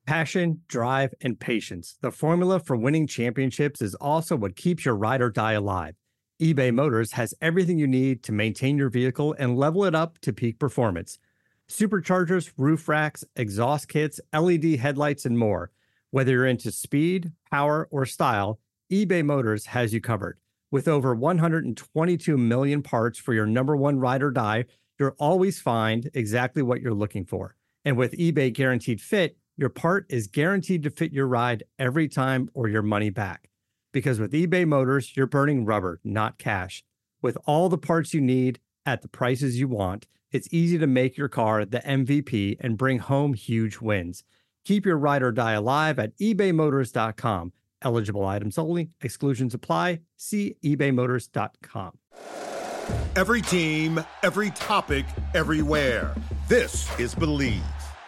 Passion, drive, and patience. The formula for winning championships is also what keeps your ride or die alive. eBay Motors has everything you need to maintain your vehicle and level it up to peak performance. Superchargers, roof racks, exhaust kits, LED headlights, and more. Whether you're into speed, power, or style, eBay Motors has you covered. With over 122 million parts for your number one ride or die, you'll always find exactly what you're looking for. And with eBay Guaranteed Fit, your part is guaranteed to fit your ride every time or your money back. Because with eBay Motors, you're burning rubber, not cash. With all the parts you need at the prices you want, it's easy to make your car the MVP and bring home huge wins. Keep your ride or die alive at ebaymotors.com. Eligible items only. Exclusions apply. See ebaymotors.com. Every team, every topic, everywhere. This is Believe.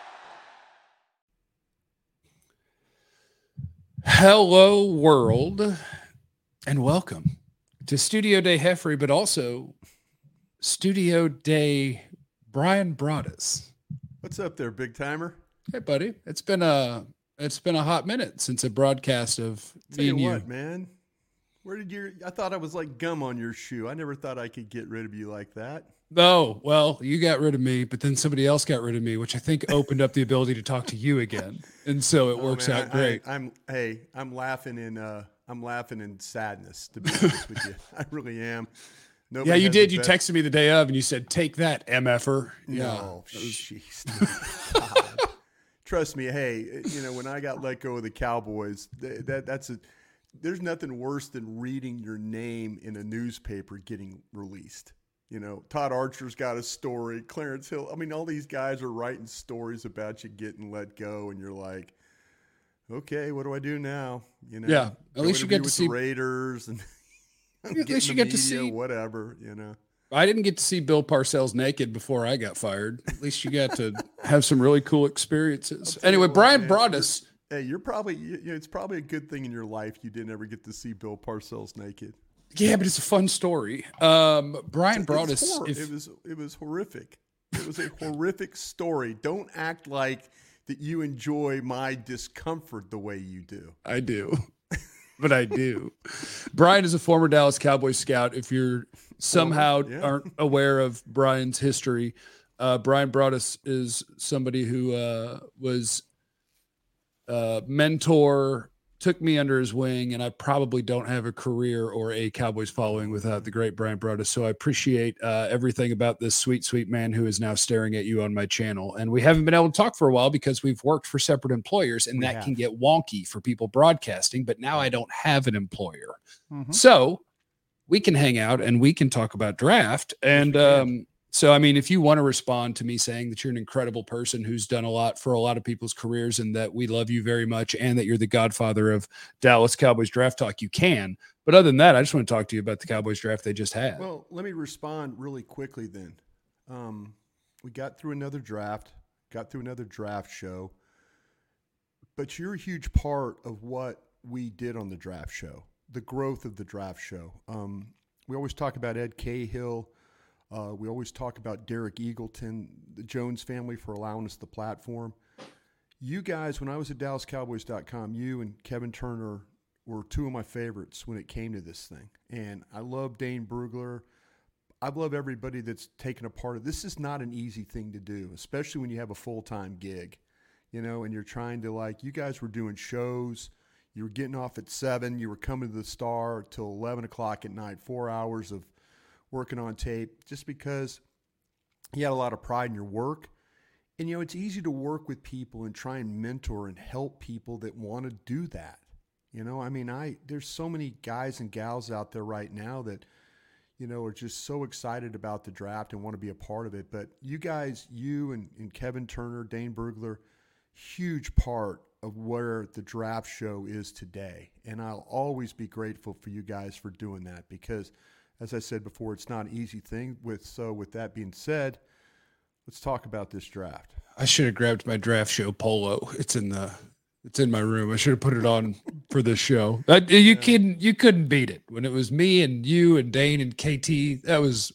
Hello, world, and welcome to Studio Day Heffrey, but also Studio Day Brian Broaddus. What's up there, big timer? Hey, buddy. It's been a hot minute since a broadcast of Tell you what, man. Where did I thought I was like gum on your shoe. I never thought I could get rid of you like that. Oh, well, you got rid of me, but then somebody else got rid of me, which I think opened up the ability to talk to you again. And so it works out great. I'm laughing in sadness, to be honest with you. I really am. Nobody you did. You texted me the day of and you said, "Take that, MFer." No, jeez. Trust me. Hey, when I got let go of the Cowboys, there's nothing worse than reading your name in a newspaper getting released. Todd Archer's got a story. Clarence Hill. I mean, all these guys are writing stories about you getting let go, and you're like, okay, what do I do now? Yeah. At least you get to see the Raiders, and at least you get to see whatever. I didn't get to see Bill Parcells naked before I got fired. At least you got to have some really cool experiences. Anyway, Brian Broaddus. Hey, you're probably it's probably a good thing in your life you didn't ever get to see Bill Parcells naked. Yeah, but it's a fun story. Brian Broaddus. It was horrific. It was a horrific story. Don't act like that you enjoy my discomfort the way you do. I do. But I do. Brian is a former Dallas Cowboys scout. If you're somehow aren't aware of Brian's history, Brian Broaddus is somebody who was a mentor, took me under his wing, and I probably don't have a career or a Cowboys following without the great Brian Broaddus. So I appreciate everything about this sweet, sweet man who is now staring at you on my channel. And we haven't been able to talk for a while because we've worked for separate employers, and that can get wonky for people broadcasting. But now I don't have an employer. Mm-hmm. So we can hang out and we can talk about draft. And so, I mean, if you want to respond to me saying that you're an incredible person who's done a lot for a lot of people's careers and that we love you very much and that you're the godfather of Dallas Cowboys draft talk, you can. But other than that, I just want to talk to you about the Cowboys draft they just had. Well, let me respond really quickly then. We got through another draft show, but you're a huge part of what we did on the draft show, the growth of the draft show. We always talk about Ed Cahill. We always talk about Derek Eagleton, the Jones family, for allowing us the platform. You guys, when I was at DallasCowboys.com, you and Kevin Turner were two of my favorites when it came to this thing. And I love Dane Brugler. I love everybody that's taken a part of this. Is not an easy thing to do, especially when you have a full-time gig, and you're trying to, you guys were doing shows. You were getting off at 7. You were coming to the Star till 11 o'clock at night, 4 hours of working on tape, just because you had a lot of pride in your work. And, it's easy to work with people and try and mentor and help people that want to do that. There's so many guys and gals out there right now that, are just so excited about the draft and want to be a part of it. But you guys, you and Kevin Turner, Dane Brugler, huge part of where the draft show is today. And I'll always be grateful for you guys for doing that because, as I said before, it's not an easy thing. With that being said, let's talk about this draft. I should have grabbed my draft show polo. It's in my room. I should have put it on for this show. You couldn't beat it when it was me and you and Dane and KT. It was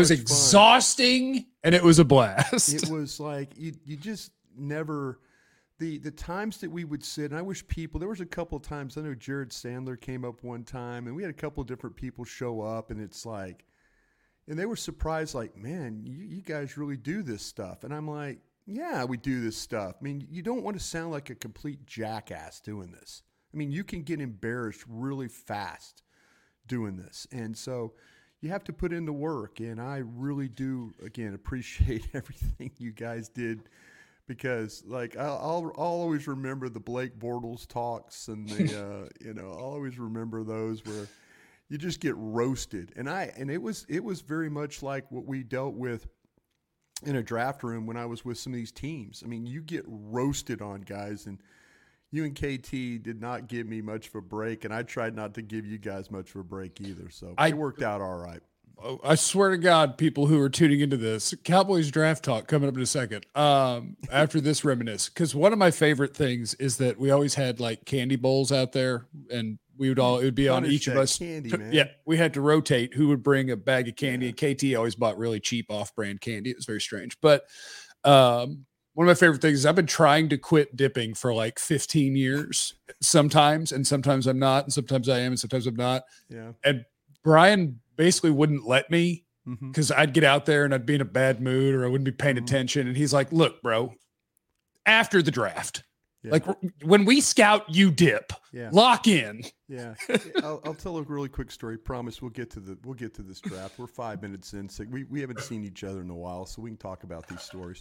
exhausting and it was a blast. It was like you just never the times that we would sit, and I wish there was a couple of times, I know Jared Sandler came up one time, and we had a couple of different people show up, and it's like, and they were surprised, like, man, you guys really do this stuff. And I'm like, yeah, we do this stuff. I mean, you don't want to sound like a complete jackass doing this. I mean, you can get embarrassed really fast doing this. And so you have to put in the work. And I really do, again, appreciate everything you guys did, because like I'll always remember the Blake Bortles talks and the I'll always remember those where you just get roasted. And it was very much like what we dealt with in a draft room when I was with some of these teams. I mean, you get roasted on, guys, and you and KT did not give me much of a break, and I tried not to give you guys much of a break either. So it worked out all right. I swear to God, people who are tuning into this, Cowboys draft talk coming up in a second. After this reminisce, because one of my favorite things is that we always had like candy bowls out there, and it would be on each of us. Candy, man. Yeah, we had to rotate who would bring a bag of candy. And KT always bought really cheap off-brand candy. It was very strange, but one of my favorite things is I've been trying to quit dipping for like 15 years. Sometimes, and sometimes I'm not, and sometimes I am, and sometimes I'm not. Yeah, and Brian basically wouldn't let me because I'd get out there and I'd be in a bad mood or I wouldn't be paying attention. And he's like, look, bro, after the draft, like when we scout, you dip, lock in. Yeah. I'll tell a really quick story. Promise we'll get to this draft. We're 5 minutes in. So we haven't seen each other in a while, so we can talk about these stories.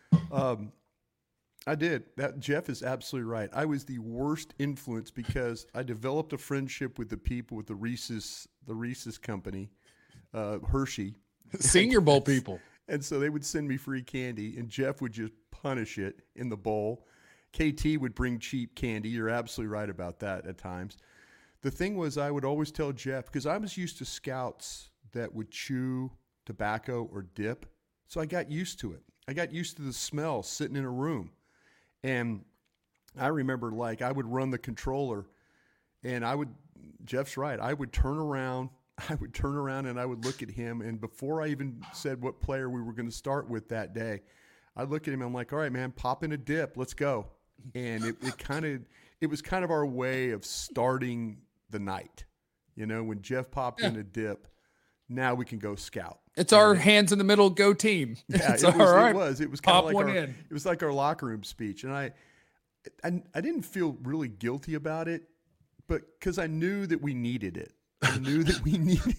I did. Jeff is absolutely right. I was the worst influence because I developed a friendship with the people with the Reese's company, Hershey. Senior Bowl people. And so they would send me free candy, and Jeff would just punish it in the bowl. KT would bring cheap candy. You're absolutely right about that at times. The thing was, I would always tell Jeff, because I was used to scouts that would chew tobacco or dip, so I got used to it. I got used to the smell sitting in a room. And I remember, like, I would run the controller, and Jeff's right, I would turn around and I would look at him, and before I even said what player we were going to start with that day, I'd look at him and I'm like, all right, man, pop in a dip, let's go. And it was kind of our way of starting the night. You know, when Jeff popped in a dip, now we can go scout. It's our hands in the middle go team. Yeah, it was. It was kind of like it was like our locker room speech. And I didn't feel really guilty about it, but because I knew that we needed it. I knew that we needed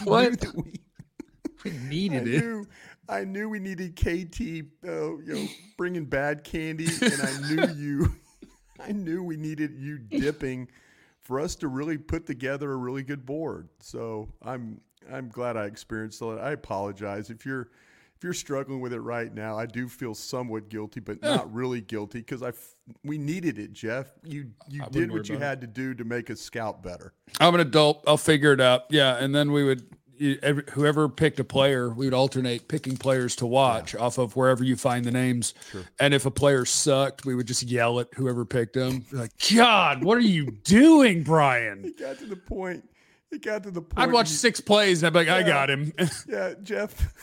I knew we needed KT, bringing bad candy, and I knew we needed you dipping for us to really put together a really good board. So I'm glad I experienced that. I apologize if you're struggling with it right now. I do feel somewhat guilty, but not really guilty because we needed it, Jeff. You did what you had to do to make us scout better. I'm an adult. I'll figure it out. Yeah, and then we would. Whoever picked a player, we would alternate picking players to watch off of wherever you find the names. Sure. And if a player sucked, we would just yell at whoever picked him. Like, God, what are you doing, Brian? It got to the point. I'd watch 6 plays and I'd be like, I got him. Yeah, Jeff.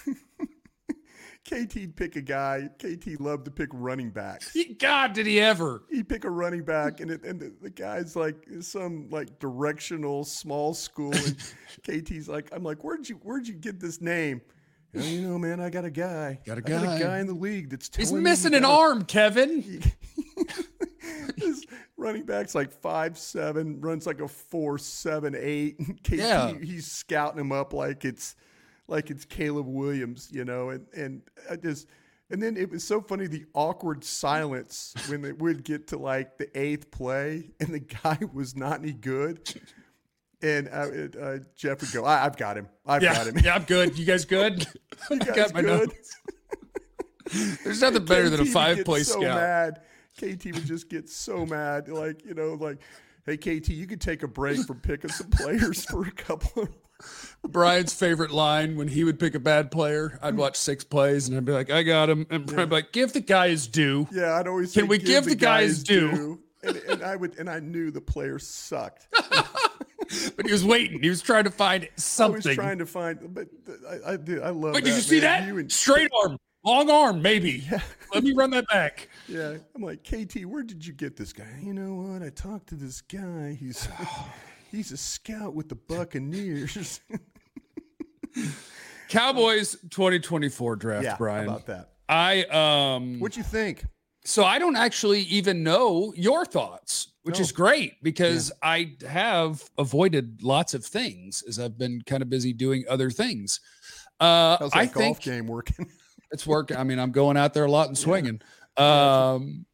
KT'd pick a guy. KT loved to pick running backs. God, did he ever? He'd pick a running back, and the guy's like some like directional small school, and KT's like, I'm like, where'd you get this name? Man, I got a guy. I got a guy in the league that's telling He's missing an arm, Kevin. This running back's like 5'7", runs like a 4.78. KT, he's scouting him up like it's Caleb Williams, and then it was so funny, the awkward silence when it would get to like the 8th play and the guy was not any good. And Jeff would go, I've got him. I've got him. Yeah, I'm good. You guys good? You guys got my good? There's nothing better than a 5-play scout. Mad. KT would just get so mad. Like, hey, KT, you could take a break from picking some players for a couple of Brian's favorite line when he would pick a bad player, I'd watch 6 plays and I'd be like, I got him. And Brian'd be like, give the guy his due. Yeah, I'd always say, can we give the guy his due? And I knew the player sucked. But he was waiting. He was trying to find something. I was trying to find, but I love that. Wait, did you see that? Straight arm. Long arm, maybe. Yeah. Let me run that back. Yeah. I'm like, KT, where did you get this guy? You know what? I talked to this guy. He's a scout with the Buccaneers. Cowboys 2024 draft, Yeah, Brian. how about that? What'd you think? So I don't actually even know your thoughts, which is great because I have avoided lots of things as I've been kind of busy doing other things. How's that I golf think game working? it's working. I mean, I'm going out there a lot and swinging. I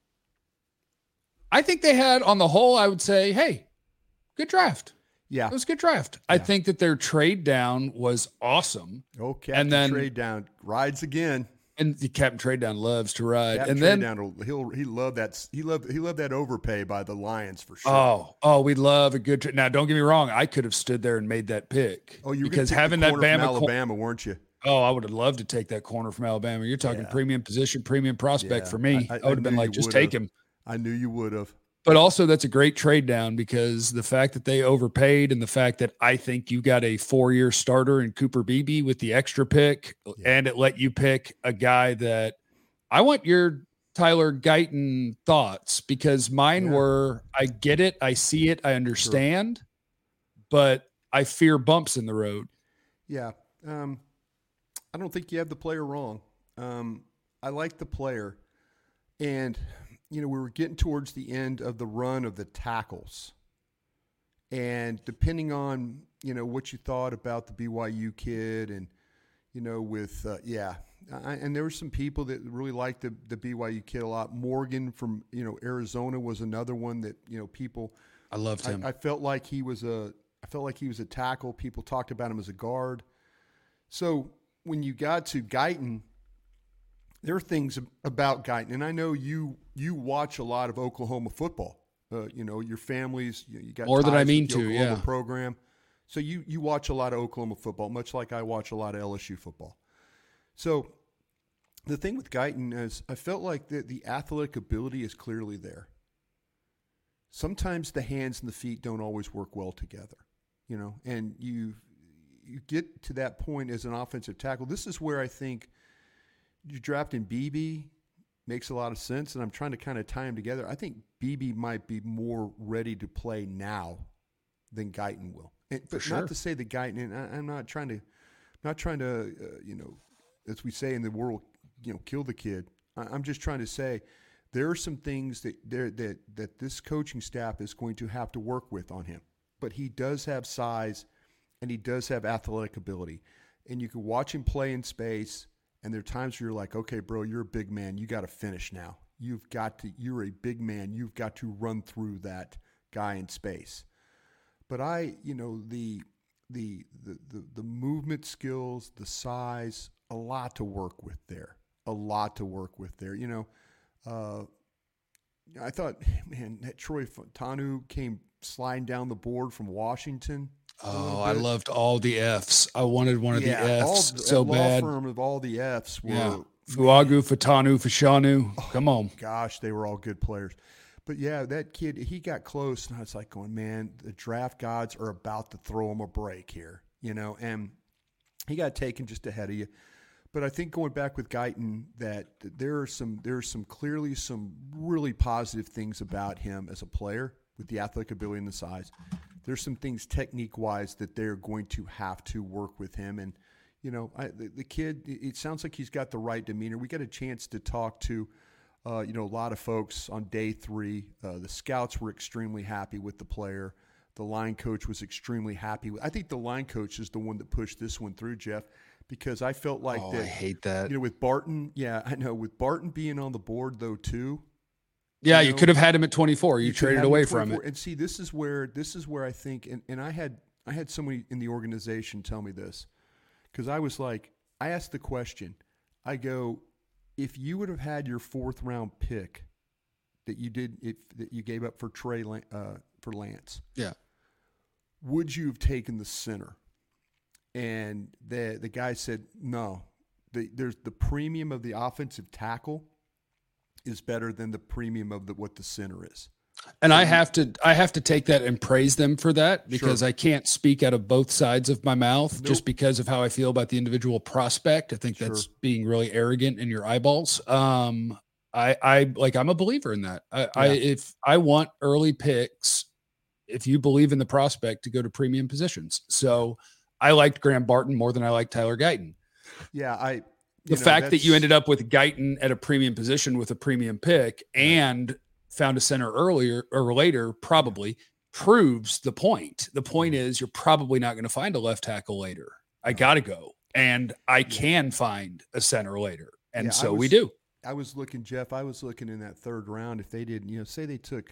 think they had, on the whole, I would say, hey, good draft. Yeah. It was a good draft. I think that their trade down was awesome. Okay. And then trade down rides again. And the Captain Trade Down loves to ride. Captain and Trade then Down, he loved that. He loved that overpay by the Lions for sure. Oh, we love a good trade. Now, don't get me wrong. I could have stood there and made that pick. Oh, you were because pick having the that corner from Bama Alabama, weren't you? Oh, I would have loved to take that corner from Alabama. You're talking premium position, premium prospect for me. I would have been like, just take him. I knew you would have. But also, that's a great trade down because the fact that they overpaid and the fact that I think you got a 4-year starter in Cooper Beebe with the extra pick, and it let you pick a guy that I want your Tyler Guyton thoughts, because mine were, I get it, I see it, I understand, but I fear bumps in the road. Yeah. I don't think you have the player wrong. I like the player. And, we were getting towards the end of the run of the tackles. And depending on, what you thought about the BYU kid and, and there were some people that really liked the BYU kid a lot. Morgan from, Arizona was another one that, people. I loved him. I felt like he was a tackle. People talked about him as a guard. So when you got to Guyton, there are things about Guyton, and I know you watch a lot of Oklahoma football. Your families, you got more than I ties mean with the to, Oklahoma program. So you watch a lot of Oklahoma football, much like I watch a lot of LSU football. So the thing with Guyton is I felt like the athletic ability is clearly there. Sometimes the hands and the feet don't always work well together, and you get to that point as an offensive tackle. This is where I think you drafting Beebe makes a lot of sense, and I'm trying to kind of tie them together. I think Beebe might be more ready to play now than Guyton will. But not to say that Guyton, and I'm not trying to, as we say in the world, kill the kid. I'm just trying to say there are some things that this coaching staff is going to have to work with on him. But he does have size, and he does have athletic ability. And you can watch him play in space, and there are times where you're like, okay, bro, you're a big man. You got to finish now. You're a big man. You've got to run through that guy in space. But the movement skills, the size, a lot to work with there. I thought, man, that Troy Fautanu came sliding down the board from Washington. Oh, I loved all the Fs. I wanted one of the Fs so bad. Law firm of all the Fs were Fuagu, Fatanu, Fashanu. Come on. Gosh, they were all good players. But yeah, that kid, he got close, and I was like going, man, the draft gods are about to throw him a break here, and he got taken just ahead of you. But I think going back with Guyton, that there are some clearly some really positive things about him as a player with the athletic ability and the size. There's some things technique-wise that they're going to have to work with him. And, the kid, it sounds like he's got the right demeanor. We got a chance to talk to, a lot of folks on day 3. The scouts were extremely happy with the player. The line coach was extremely happy. I think the line coach is the one that pushed this one through, Jeff, because I felt like that. I hate that. With Barton, I know. With Barton being on the board, though, too. Yeah, you could have had him at 24. You traded away from it. And see, this is where I think, and I had somebody in the organization tell me this, because I was like, I asked the question. I go, if you would have had your 4th round pick that you gave up for for Lance, would you have taken the center? And the guy said no. There's the premium of the offensive tackle is better than the premium of what the center is. And I have to take that and praise them for that, because Sure. I can't speak out of both sides of my mouth Nope. just because of how I feel about the individual prospect. I think that's Sure. being really arrogant in your eyeballs. I'm a believer in that. If I want early picks, if you believe in the prospect, to go to premium positions. So I liked Graham Barton more than I liked Tyler Guyton. Yeah, The fact that you ended up with Guyton at a premium position with a premium pick and found a center earlier or later probably proves the point. The point is you're probably not going to find a left tackle later. I got to go. And I can find a center later. And we do. I was looking, Jeff, I was looking in that third round. If they did, say they took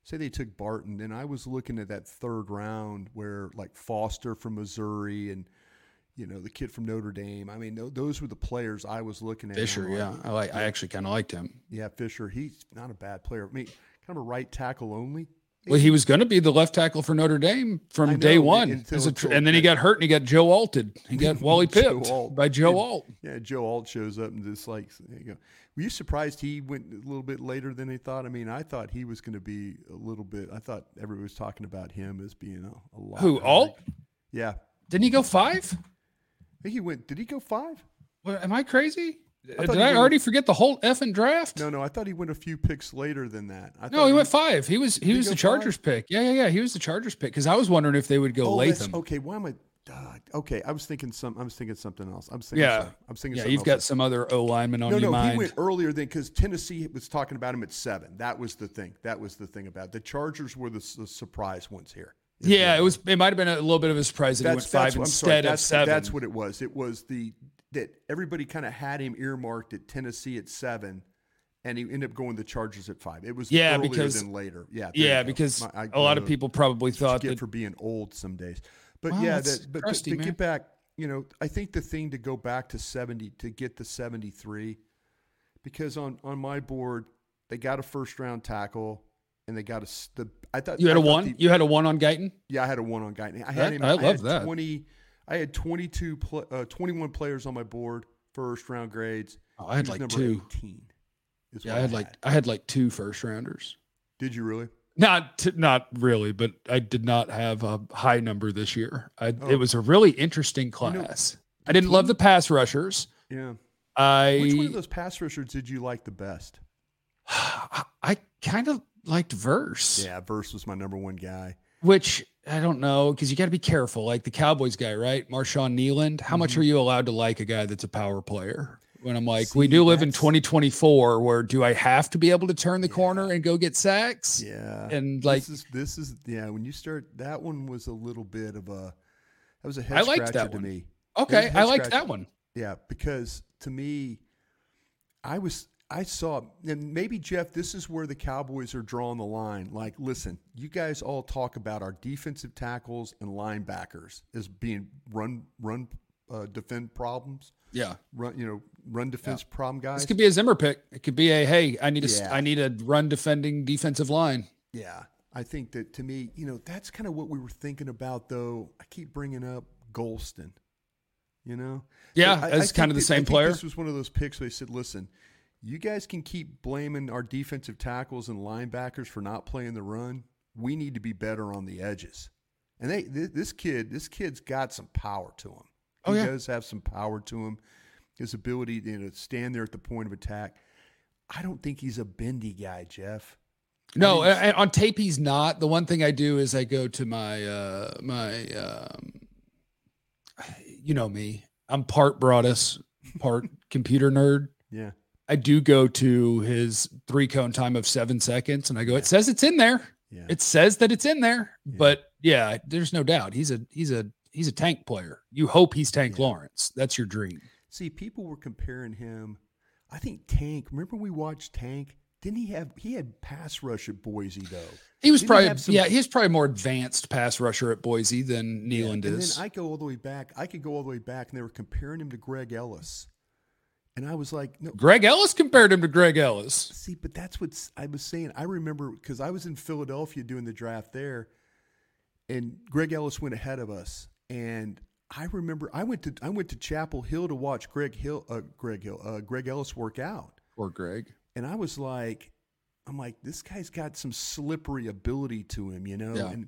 Barton, then I was looking at that third round where like Foster from Missouri and, the kid from Notre Dame. I mean, those were the players I was looking at. Fisher, yeah. I actually kind of liked him. Yeah, Fisher, he's not a bad player. I mean, kind of a right tackle only. Well, he was going to be the left tackle for Notre Dame from day one. And then he got hurt and he got Joe Alted. He got Wally pipped by Joe Alt. Yeah, Joe Alt shows up and just like, there you go. Were you surprised he went a little bit later than they thought? I mean, I thought he was going to be a little bit. I thought everybody was talking about him as being a lot. Who, Alt? Yeah. Didn't he go 5? I think he went. Did he go 5? Well, am I crazy? Did he I already forget the whole effing draft? No. I thought he went a few picks later than that. No, he went 5. He was the Chargers pick. Yeah. He was the Chargers pick because I was wondering if they would go Latham. Okay. Why am I? Okay, I was thinking something else. I'm thinking. Yeah, you've got some other O lineman on your mind. No, he went earlier than because Tennessee was talking about him at 7. That was the thing. About it. The Chargers were the surprise ones here. Yeah, it might have been a little bit of a surprise that he went 5 instead of 7. That's what it was. It was that everybody kind of had him earmarked at Tennessee at 7, and he ended up going the Chargers at 5. It was earlier than later. Yeah, because a lot of people probably thought that for being old some days. But crusty, to get back, I think the thing to go back to 70 to get to 73, because on my board they got a first round tackle. And they got I thought you had a 1. You had a 1 on Guyton. Yeah, I had a 1 on Guyton. I love that. I had 21 players on my board, first round grades. Oh, I had like number 2. 18. I had like 2 first rounders. Did you really? Not really, but I did not have a high number this year. It was a really interesting class. I didn't love the pass rushers. Yeah. Which one of those pass rushers did you like the best? I kind of liked Verse. Yeah, Verse was my number 1 guy. Which I don't know, because you got to be careful. Like the Cowboys guy, right? Marshawn Nealand. How much are you allowed to like a guy that's a power player? When I'm like, we do live in 2024, where do I have to be able to turn the corner and go get sacks? Yeah, and like this is when you start, that one was a little bit of a head scratcher to me. Okay, I liked that one. Yeah, because to me, I saw, and maybe, Jeff, this is where the Cowboys are drawing the line. Like, listen, you guys all talk about our defensive tackles and linebackers as being run defend problems. Yeah. Run defense problem guys. This could be a Zimmer pick. It could be I need a run defending defensive line. Yeah. I think that, to me, that's kind of what we were thinking about, though. I keep bringing up Golston, Yeah, as kind of the same player. This was one of those picks where they said, listen, you guys can keep blaming our defensive tackles and linebackers for not playing the run. We need to be better on the edges. And this kid's got some power to him. He does have some power to him. His ability to stand there at the point of attack. I don't think he's a bendy guy, Jeff. No, on tape he's not. The one thing I do is I go to my you know me. I'm part Broadus, part computer nerd. Yeah. I do go to his 3-cone time of 7 seconds, and I go, it says it's in there. Yeah. It says that it's in there. Yeah. But yeah, there's no doubt. He's a tank player. You hope he's Tank Lawrence. That's your dream. See, people were comparing him. I think Tank, remember we watched Tank? Didn't he had pass rush at Boise though? He was he's probably more advanced pass rusher at Boise than Nealand is. And then I could go all the way back, and they were comparing him to Greg Ellis. And I was like, no. Greg Ellis compared him to Greg Ellis. See, but that's what I was saying. I remember because I was in Philadelphia doing the draft there, and Greg Ellis went ahead of us. And I remember I went to Chapel Hill to watch Greg Ellis work out. Or Greg. And I was like, I'm like, this guy's got some slippery ability to him, you know? Yeah. And,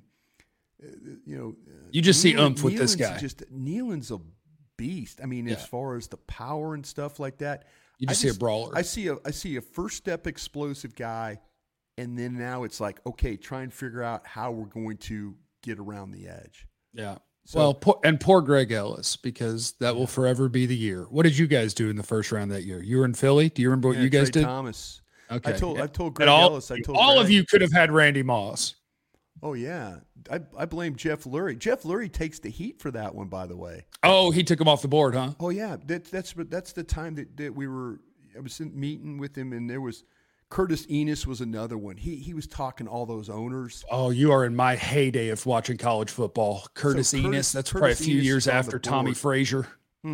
you just see oomph with this guy. Nealon's a beast. I mean, as far as the power and stuff like that. You just see a brawler. I see a first step explosive guy. And then now it's like, okay, try and figure out how we're going to get around the edge. Yeah. So, poor Greg Ellis, because that will forever be the year. What did you guys do in the first round that year? You were in Philly. Do you remember what you guys Trey did? Thomas. Okay. I told Greg Ellis. All of you could have had Randy Moss. Oh yeah, I blame Jeff Lurie. Jeff Lurie takes the heat for that one, by the way. Oh, he took him off the board, huh? Oh yeah, that's the time that we were. I was meeting with him, and there was Curtis Enos was another one. He was talking all those owners. Oh, you are in my heyday of watching college football. Curtis Enos. That's probably a few years after Tommy Frazier.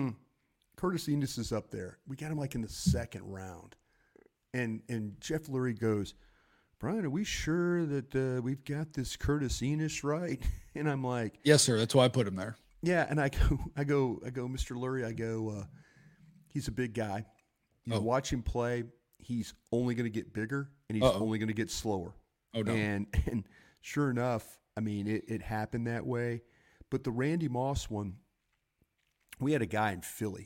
Curtis Enos is up there. We got him like in the second round, and Jeff Lurie goes, Brian, are we sure that we've got this Curtis Enos right? And I'm like, yes, sir. That's why I put him there. Yeah, and I go, Mr. Lurie, he's a big guy. You watch him play. He's only going to get bigger, and he's only going to get slower. Oh no! And sure enough, I mean, it happened that way. But the Randy Moss one, we had a guy in Philly.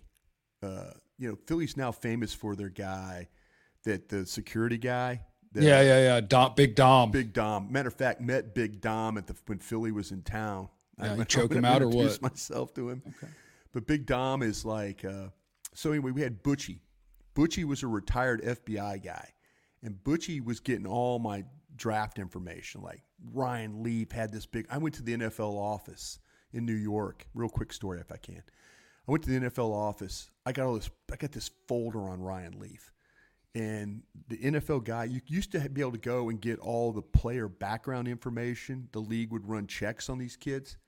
Philly's now famous for their guy, the security guy. Yeah. Big Dom. Big Dom. Matter of fact, met Big Dom when Philly was in town. Yeah, you choke him out or what? Introduced myself to him. Okay. But Big Dom is like, so anyway, we had Butchie. Butchie was a retired FBI guy. And Butchie was getting all my draft information. Like Ryan Leaf had this big, I went to the NFL office in New York. Real quick story if I can. I went to the NFL office. I got this folder on Ryan Leaf. And the NFL guy, you used to be able to go and get all the player background information. The league would run checks on these kids.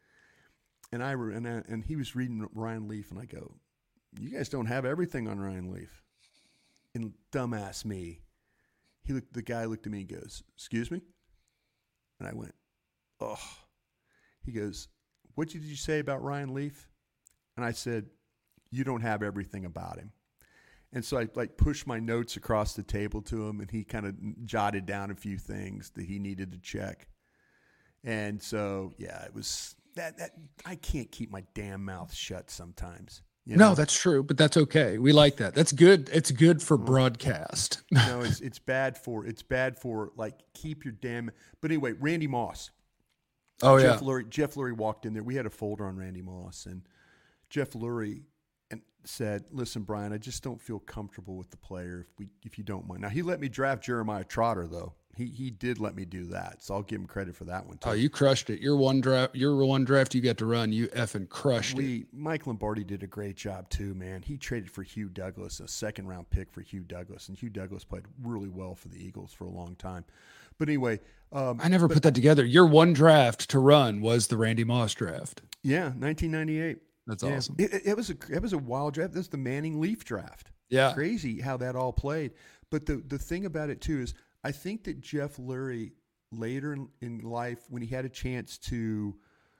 And he was reading Ryan Leaf, and I go, you guys don't have everything on Ryan Leaf. And dumbass me, the guy looked at me and goes, excuse me? And I went, oh. He goes, what did you say about Ryan Leaf? And I said, you don't have everything about him. And so I pushed my notes across the table to him, and he kind of jotted down a few things that he needed to check. And so, yeah, it was that I can't keep my damn mouth shut sometimes. No, that's true, but that's okay. We like that. That's good. It's good for broadcast. No, it's bad for like keep your damn. But anyway, Randy Moss. Oh Jeff Lurie walked in there. We had a folder on Randy Moss, and Jeff Lurie said, listen, Brian, I just don't feel comfortable with the player if you don't mind. Now, he let me draft Jeremiah Trotter, though. He did let me do that, so I'll give him credit for that one, too. Oh, you crushed it. Your one draft you got to run, you effing crushed it. Mike Lombardi did a great job, too, man. He traded for Hugh Douglas, a second-round pick for Hugh Douglas, and Hugh Douglas played really well for the Eagles for a long time. But anyway. I never put that together. Your one draft to run was the Randy Moss draft. Yeah, 1998. That's awesome. It was a wild draft. That's the Manning Leaf draft. Yeah. Crazy how that all played. But the thing about it, too, is I think that Jeff Lurie later in life, when he had a chance to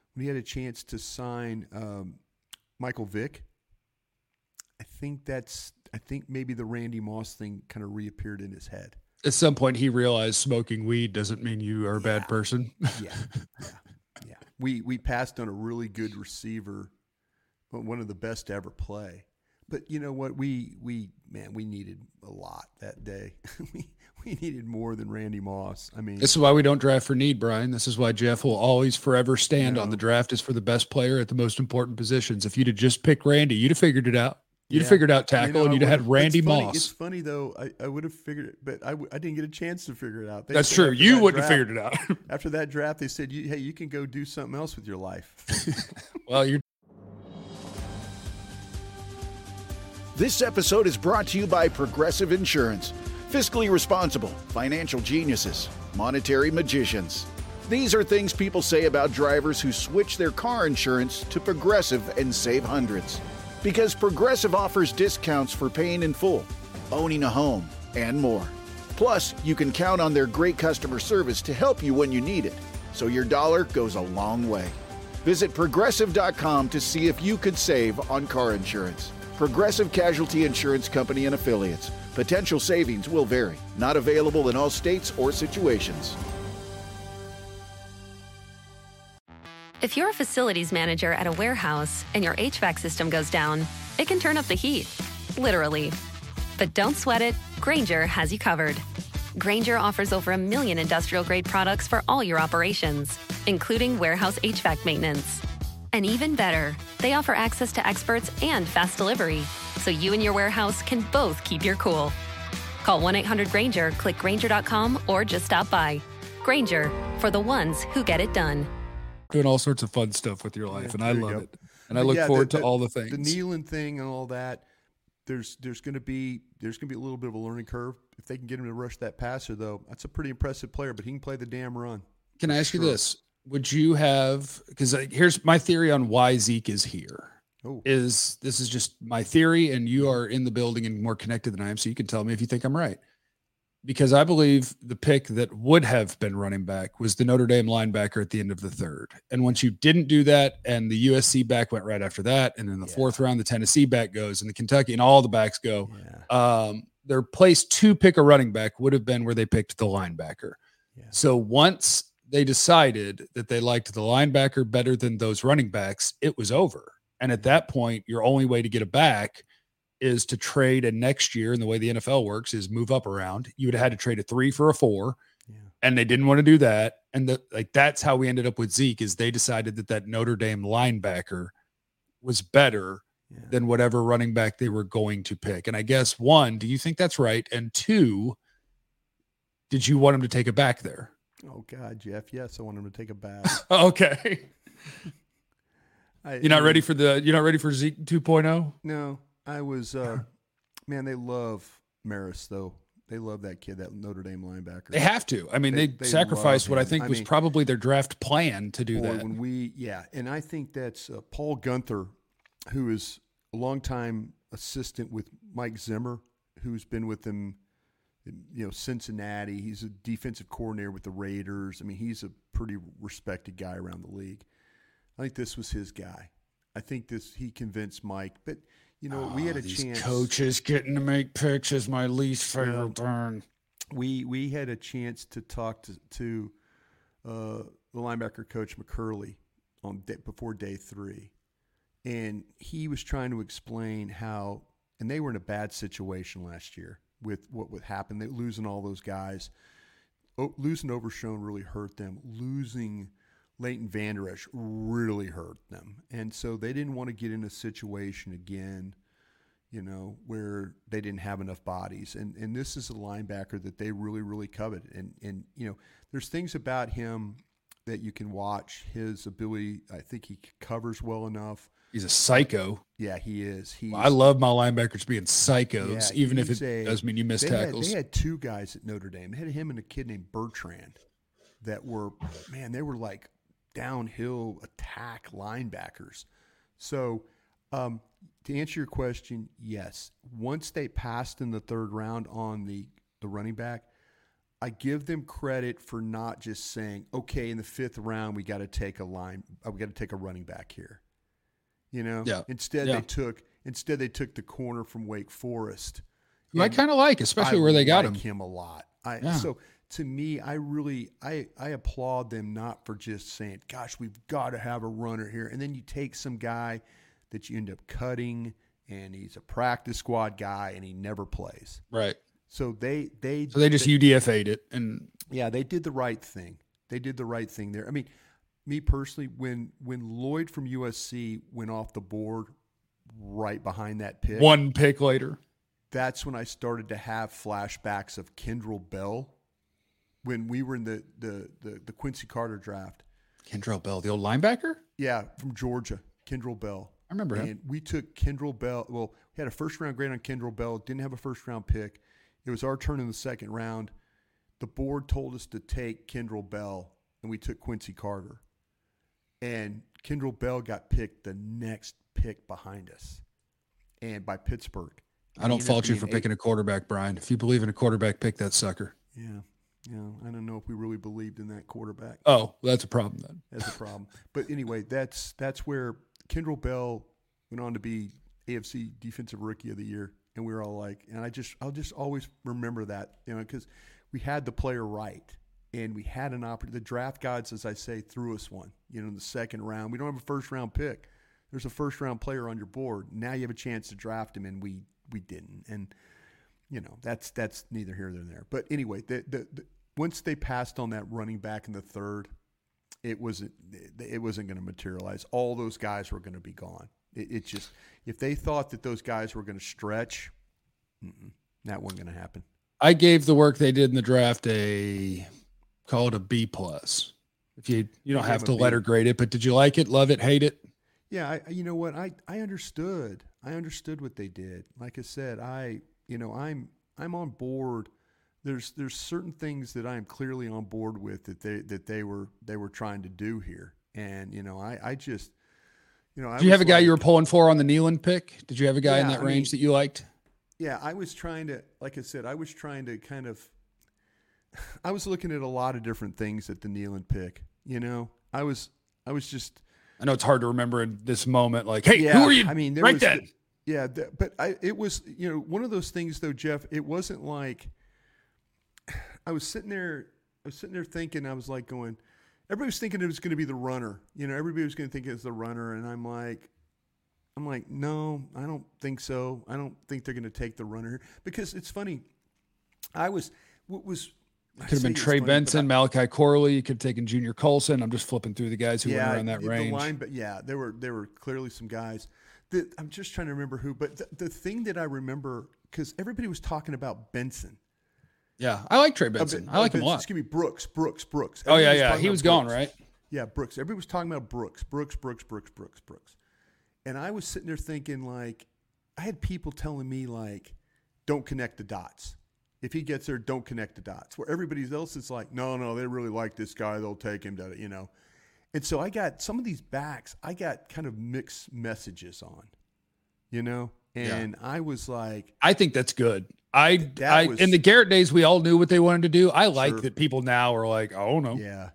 sign Michael Vick, I think maybe the Randy Moss thing kind of reappeared in his head. At some point, he realized smoking weed doesn't mean you are a bad person. Yeah. We passed on a really good receiver, one of the best to ever play. But you know what? We needed a lot that day. we needed more than Randy Moss. I mean, this is why we don't draft for need, Brian. This is why Jeff will always forever stand on the draft is for the best player at the most important positions. If you'd have just picked Randy, you'd have figured it out. You'd have figured out tackle, and you'd have had Randy Moss. It's funny, though. I would have figured it, but I didn't get a chance to figure it out. That's true. You wouldn't have figured it out. After that draft, they said, hey, you can go do something else with your life. Well, you're. This episode is brought to you by Progressive Insurance. Fiscally responsible, financial geniuses, monetary magicians. These are things people say about drivers who switch their car insurance to Progressive and save hundreds. Because Progressive offers discounts for paying in full, owning a home, and more. Plus, you can count on their great customer service to help you when you need it, so your dollar goes a long way. Visit Progressive.com to see if you could save on car insurance. Progressive Casualty Insurance Company and Affiliates. Potential savings will vary. Not available in all states or situations. If you're a facilities manager at a warehouse and your HVAC system goes down, it can turn up the heat, literally. But don't sweat it, Grainger has you covered. Grainger offers over 1 million industrial-grade products for all your operations, including warehouse HVAC maintenance. And even better, they offer access to experts and fast delivery, so you and your warehouse can both keep your cool. Call 1-800-GRAINGER, click Grainger.com, or just stop by. Grainger, for the ones who get it done. Doing all sorts of fun stuff with your life, and I love it. And I look Yeah, forward to all the things. The kneeling thing and all that. There's going to be a little bit of a learning curve. If they can get him to rush that passer, though, that's a pretty impressive player. But he can play the damn run. Can I ask you this? Would you have? Because here's my theory on why Zeke is here. This is just my theory, and you are in the building and more connected than I am, so you can tell me if you think I'm right. Because I believe the pick that would have been running back was the Notre Dame linebacker at the end of the third. And once you didn't do that, and the USC back went right after that, and in the fourth round, the Tennessee back goes, and the Kentucky, and all the backs go. Their place to pick a running back would have been where they picked the linebacker. So once they decided that they liked the linebacker better than those running backs, it was over. And at that point, your only way to get a back is to trade a next year. And the way the NFL works is move up around. You would have had to trade a 3 for a 4, and they didn't want to do that. And that's how we ended up with Zeke, is they decided that Notre Dame linebacker was better than whatever running back they were going to pick. And I guess, 1, do you think that's right? And 2, did you want him to take it back there? Oh God, Jeff. Yes. I want him to take it back. Okay. You're not ready for Zeke 2.0? No. I was, man, they love Maris, though. They love that kid, that Notre Dame linebacker. They have to. I mean, they sacrificed what I think was probably their draft plan to do that. And I think that's Paul Gunther, who is a longtime assistant with Mike Zimmer, who's been with them, Cincinnati. He's a defensive coordinator with the Raiders. I mean, he's a pretty respected guy around the league. I think this was his guy. I think he convinced Mike, but we had a chance. Coaches getting to make picks is my least favorite turn. We had a chance to talk to the linebacker coach McCurley before day 3, and he was trying to explain how, and they were in a bad situation last year with what would happen. They losing all those guys, losing Overshown really hurt them. Losing Leighton Vander Esch really hurt them. And so they didn't want to get in a situation again, where they didn't have enough bodies. And this is a linebacker that they really, really covet. And there's things about him that you can watch. His ability, I think he covers well enough. He's a psycho. Yeah, he is. I love my linebackers being psychos, even if it does mean you miss tackles. They had 2 guys at Notre Dame. They had him and a kid named Bertrand that were, they were like downhill attack linebackers. So to answer your question, yes. Once they passed in the 3rd round on the running back, I give them credit for not just saying, okay, in the 5th round we got to take a running back here. Instead they took the corner from Wake Forest. I kind of like, especially where they got him a lot. So to me, I applaud them not for just saying, gosh, we've got to have a runner here. And then you take some guy that you end up cutting, and he's a practice squad guy, and he never plays. Right. So they just UDFA'd it. And yeah, they did the right thing. They did the right thing there. I mean, me personally, when Lloyd from USC went off the board right behind that pick. 1 pick later. That's when I started to have flashbacks of Kendrell Bell when we were in the Quincy Carter draft. Kendrell Bell, the old linebacker? Yeah, from Georgia, Kendrell Bell. I remember him. And we took Kendrell Bell. Well, we had a first-round grade on Kendrell Bell. Didn't have a first-round pick. It was our turn in the 2nd round. The board told us to take Kendrell Bell, and we took Quincy Carter. And Kendrell Bell got picked the next pick behind us, and by Pittsburgh. I don't fault you for picking a quarterback, Brian. If you believe in a quarterback, pick that sucker. Yeah. I don't know if we really believed in that quarterback. Oh, that's a problem then. That's a problem. But anyway, that's where Kendrell Bell went on to be AFC Defensive Rookie of the Year. And we were all like, and I'll just always remember that, because we had the player right. And we had an opportunity. The draft gods, as I say, threw us one, in the second round. We don't have a first-round pick. There's a first-round player on your board. Now you have a chance to draft him, and we didn't. And, that's neither here nor there. But anyway, the once they passed on that running back in the third, it wasn't going to materialize. All those guys were going to be gone. It just, if they thought that those guys were going to stretch, that wasn't going to happen. I gave the work they did in the draft call it a B+. If you don't have to letter grade it, but did you like it, love it, hate it? Yeah, you know what? I understood. I understood what they did. Like I said, I'm on board. There's certain things that I am clearly on board with that they were trying to do here. And I just Did you have a guy you were pulling for on the Neyland pick? Did you have a guy in that range that you liked? Yeah, I was trying to, like I said, I was looking at a lot of different things at the Neyland pick. I know it's hard to remember in this moment. Like, hey, who are you? I mean, then. It was, one of those things though, Jeff. It wasn't like I was sitting there thinking. I was like going. Everybody was thinking it was going to be the runner. Everybody was going to think it was the runner, and I'm like, no, I don't think so. I don't think they're going to take the runner because it's funny. Could have been Trey Benson, Malachi Corley. You could have taken Junior Colson. I'm just flipping through the guys who went around that range. There were clearly some guys that I'm just trying to remember who. But the thing that I remember, because everybody was talking about Benson. Yeah, I like Trey Benson. I like him a lot. Excuse me, Brooks. Oh, yeah. He was gone, right? Yeah, Brooks. Everybody was talking about Brooks. And I was sitting there thinking, like, I had people telling me, like, don't connect the dots. If he gets there, don't connect the dots. Where everybody else is like, no, they really like this guy. They'll take him to, And so I got some of these backs, I got kind of mixed messages on, And I was like. I think that's good. In the Garrett days, we all knew what they wanted to do. I like that people now are like, oh, no. Yeah.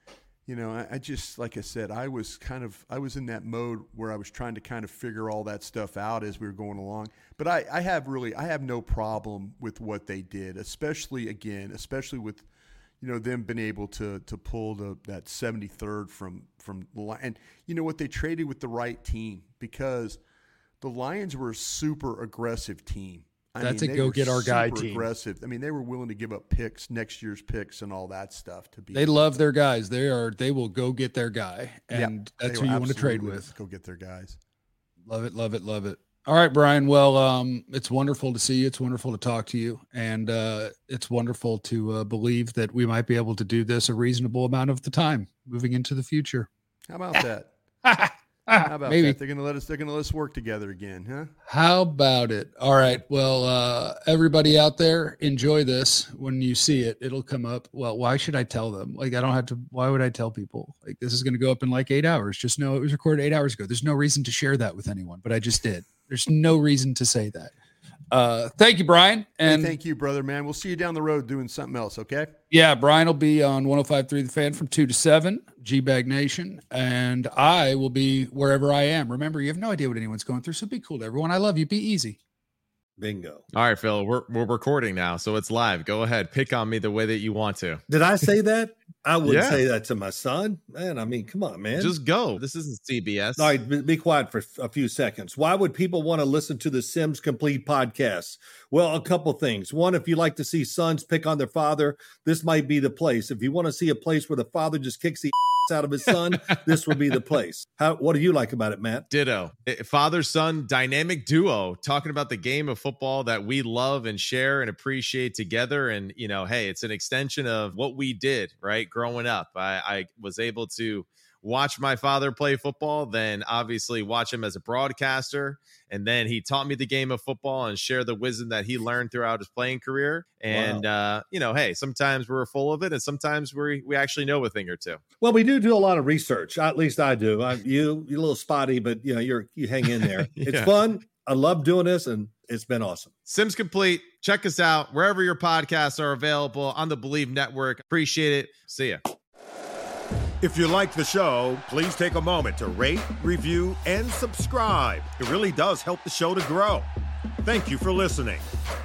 I just, like I said, I was in that mode where I was trying to kind of figure all that stuff out as we were going along. But I have no problem with what they did, especially with, them being able to pull that 73rd from the line. And you know what? They traded with the right team because the Lions were a super aggressive team. That's a go get our guy team. Aggressive. I mean, they were willing to give up picks, next year's picks, and all that stuff to be. They love their guys. They will go get their guy, and that's who you want to trade with. Go get their guys. Love it, love it, love it. All right, Brian. Well, it's wonderful to see you. It's wonderful to talk to you, and it's wonderful to believe that we might be able to do this a reasonable amount of the time moving into the future. How about that? How about that? They're gonna let us work together again, huh? How about it? All right. Well, everybody out there, enjoy this. When you see it, it'll come up. Well, why should I tell them? Like, I don't have to. Why would I tell people? Like, this is going to go up in like 8 hours. Just know it was recorded 8 hours ago. There's no reason to share that with anyone, but I just did. There's no reason to say that. Thank you, Brian. And thank you, brother, man. We'll see you down the road doing something else, okay? Yeah, Brian will be on 105.3 The Fan from 2 to 7, G-Bag Nation, and I will be wherever I am. Remember, you have no idea what anyone's going through, so be cool to everyone. I love you. Be easy. Bingo. All right, Phil, we're recording now, so it's live. Go ahead. Pick on me the way that you want to. Did I say that? I wouldn't say that to my son. Man, I mean, come on, man. Just go. This isn't CBS. All right, be quiet for a few seconds. Why would people want to listen to the Sims Complete podcast? Well, a couple things. One, if you like to see sons pick on their father, this might be the place. If you want to see a place where the father just kicks the out of his son, this will be the place. What do you like about it, Matt? Ditto. Father-son dynamic duo talking about the game of football that we love and share and appreciate together. And, hey, it's an extension of what we did, right? Growing up, I was able to watch my father play football, then obviously watch him as a broadcaster. And then he taught me the game of football and share the wisdom that he learned throughout his playing career. And, hey, sometimes we're full of it and sometimes we actually know a thing or two. Well, we do a lot of research. At least I do. You're a little spotty, but you hang in there. It's fun. I love doing this and it's been awesome. Sims Complete. Check us out wherever your podcasts are available on the Believe Network. Appreciate it. See ya. If you like the show, please take a moment to rate, review, and subscribe. It really does help the show to grow. Thank you for listening.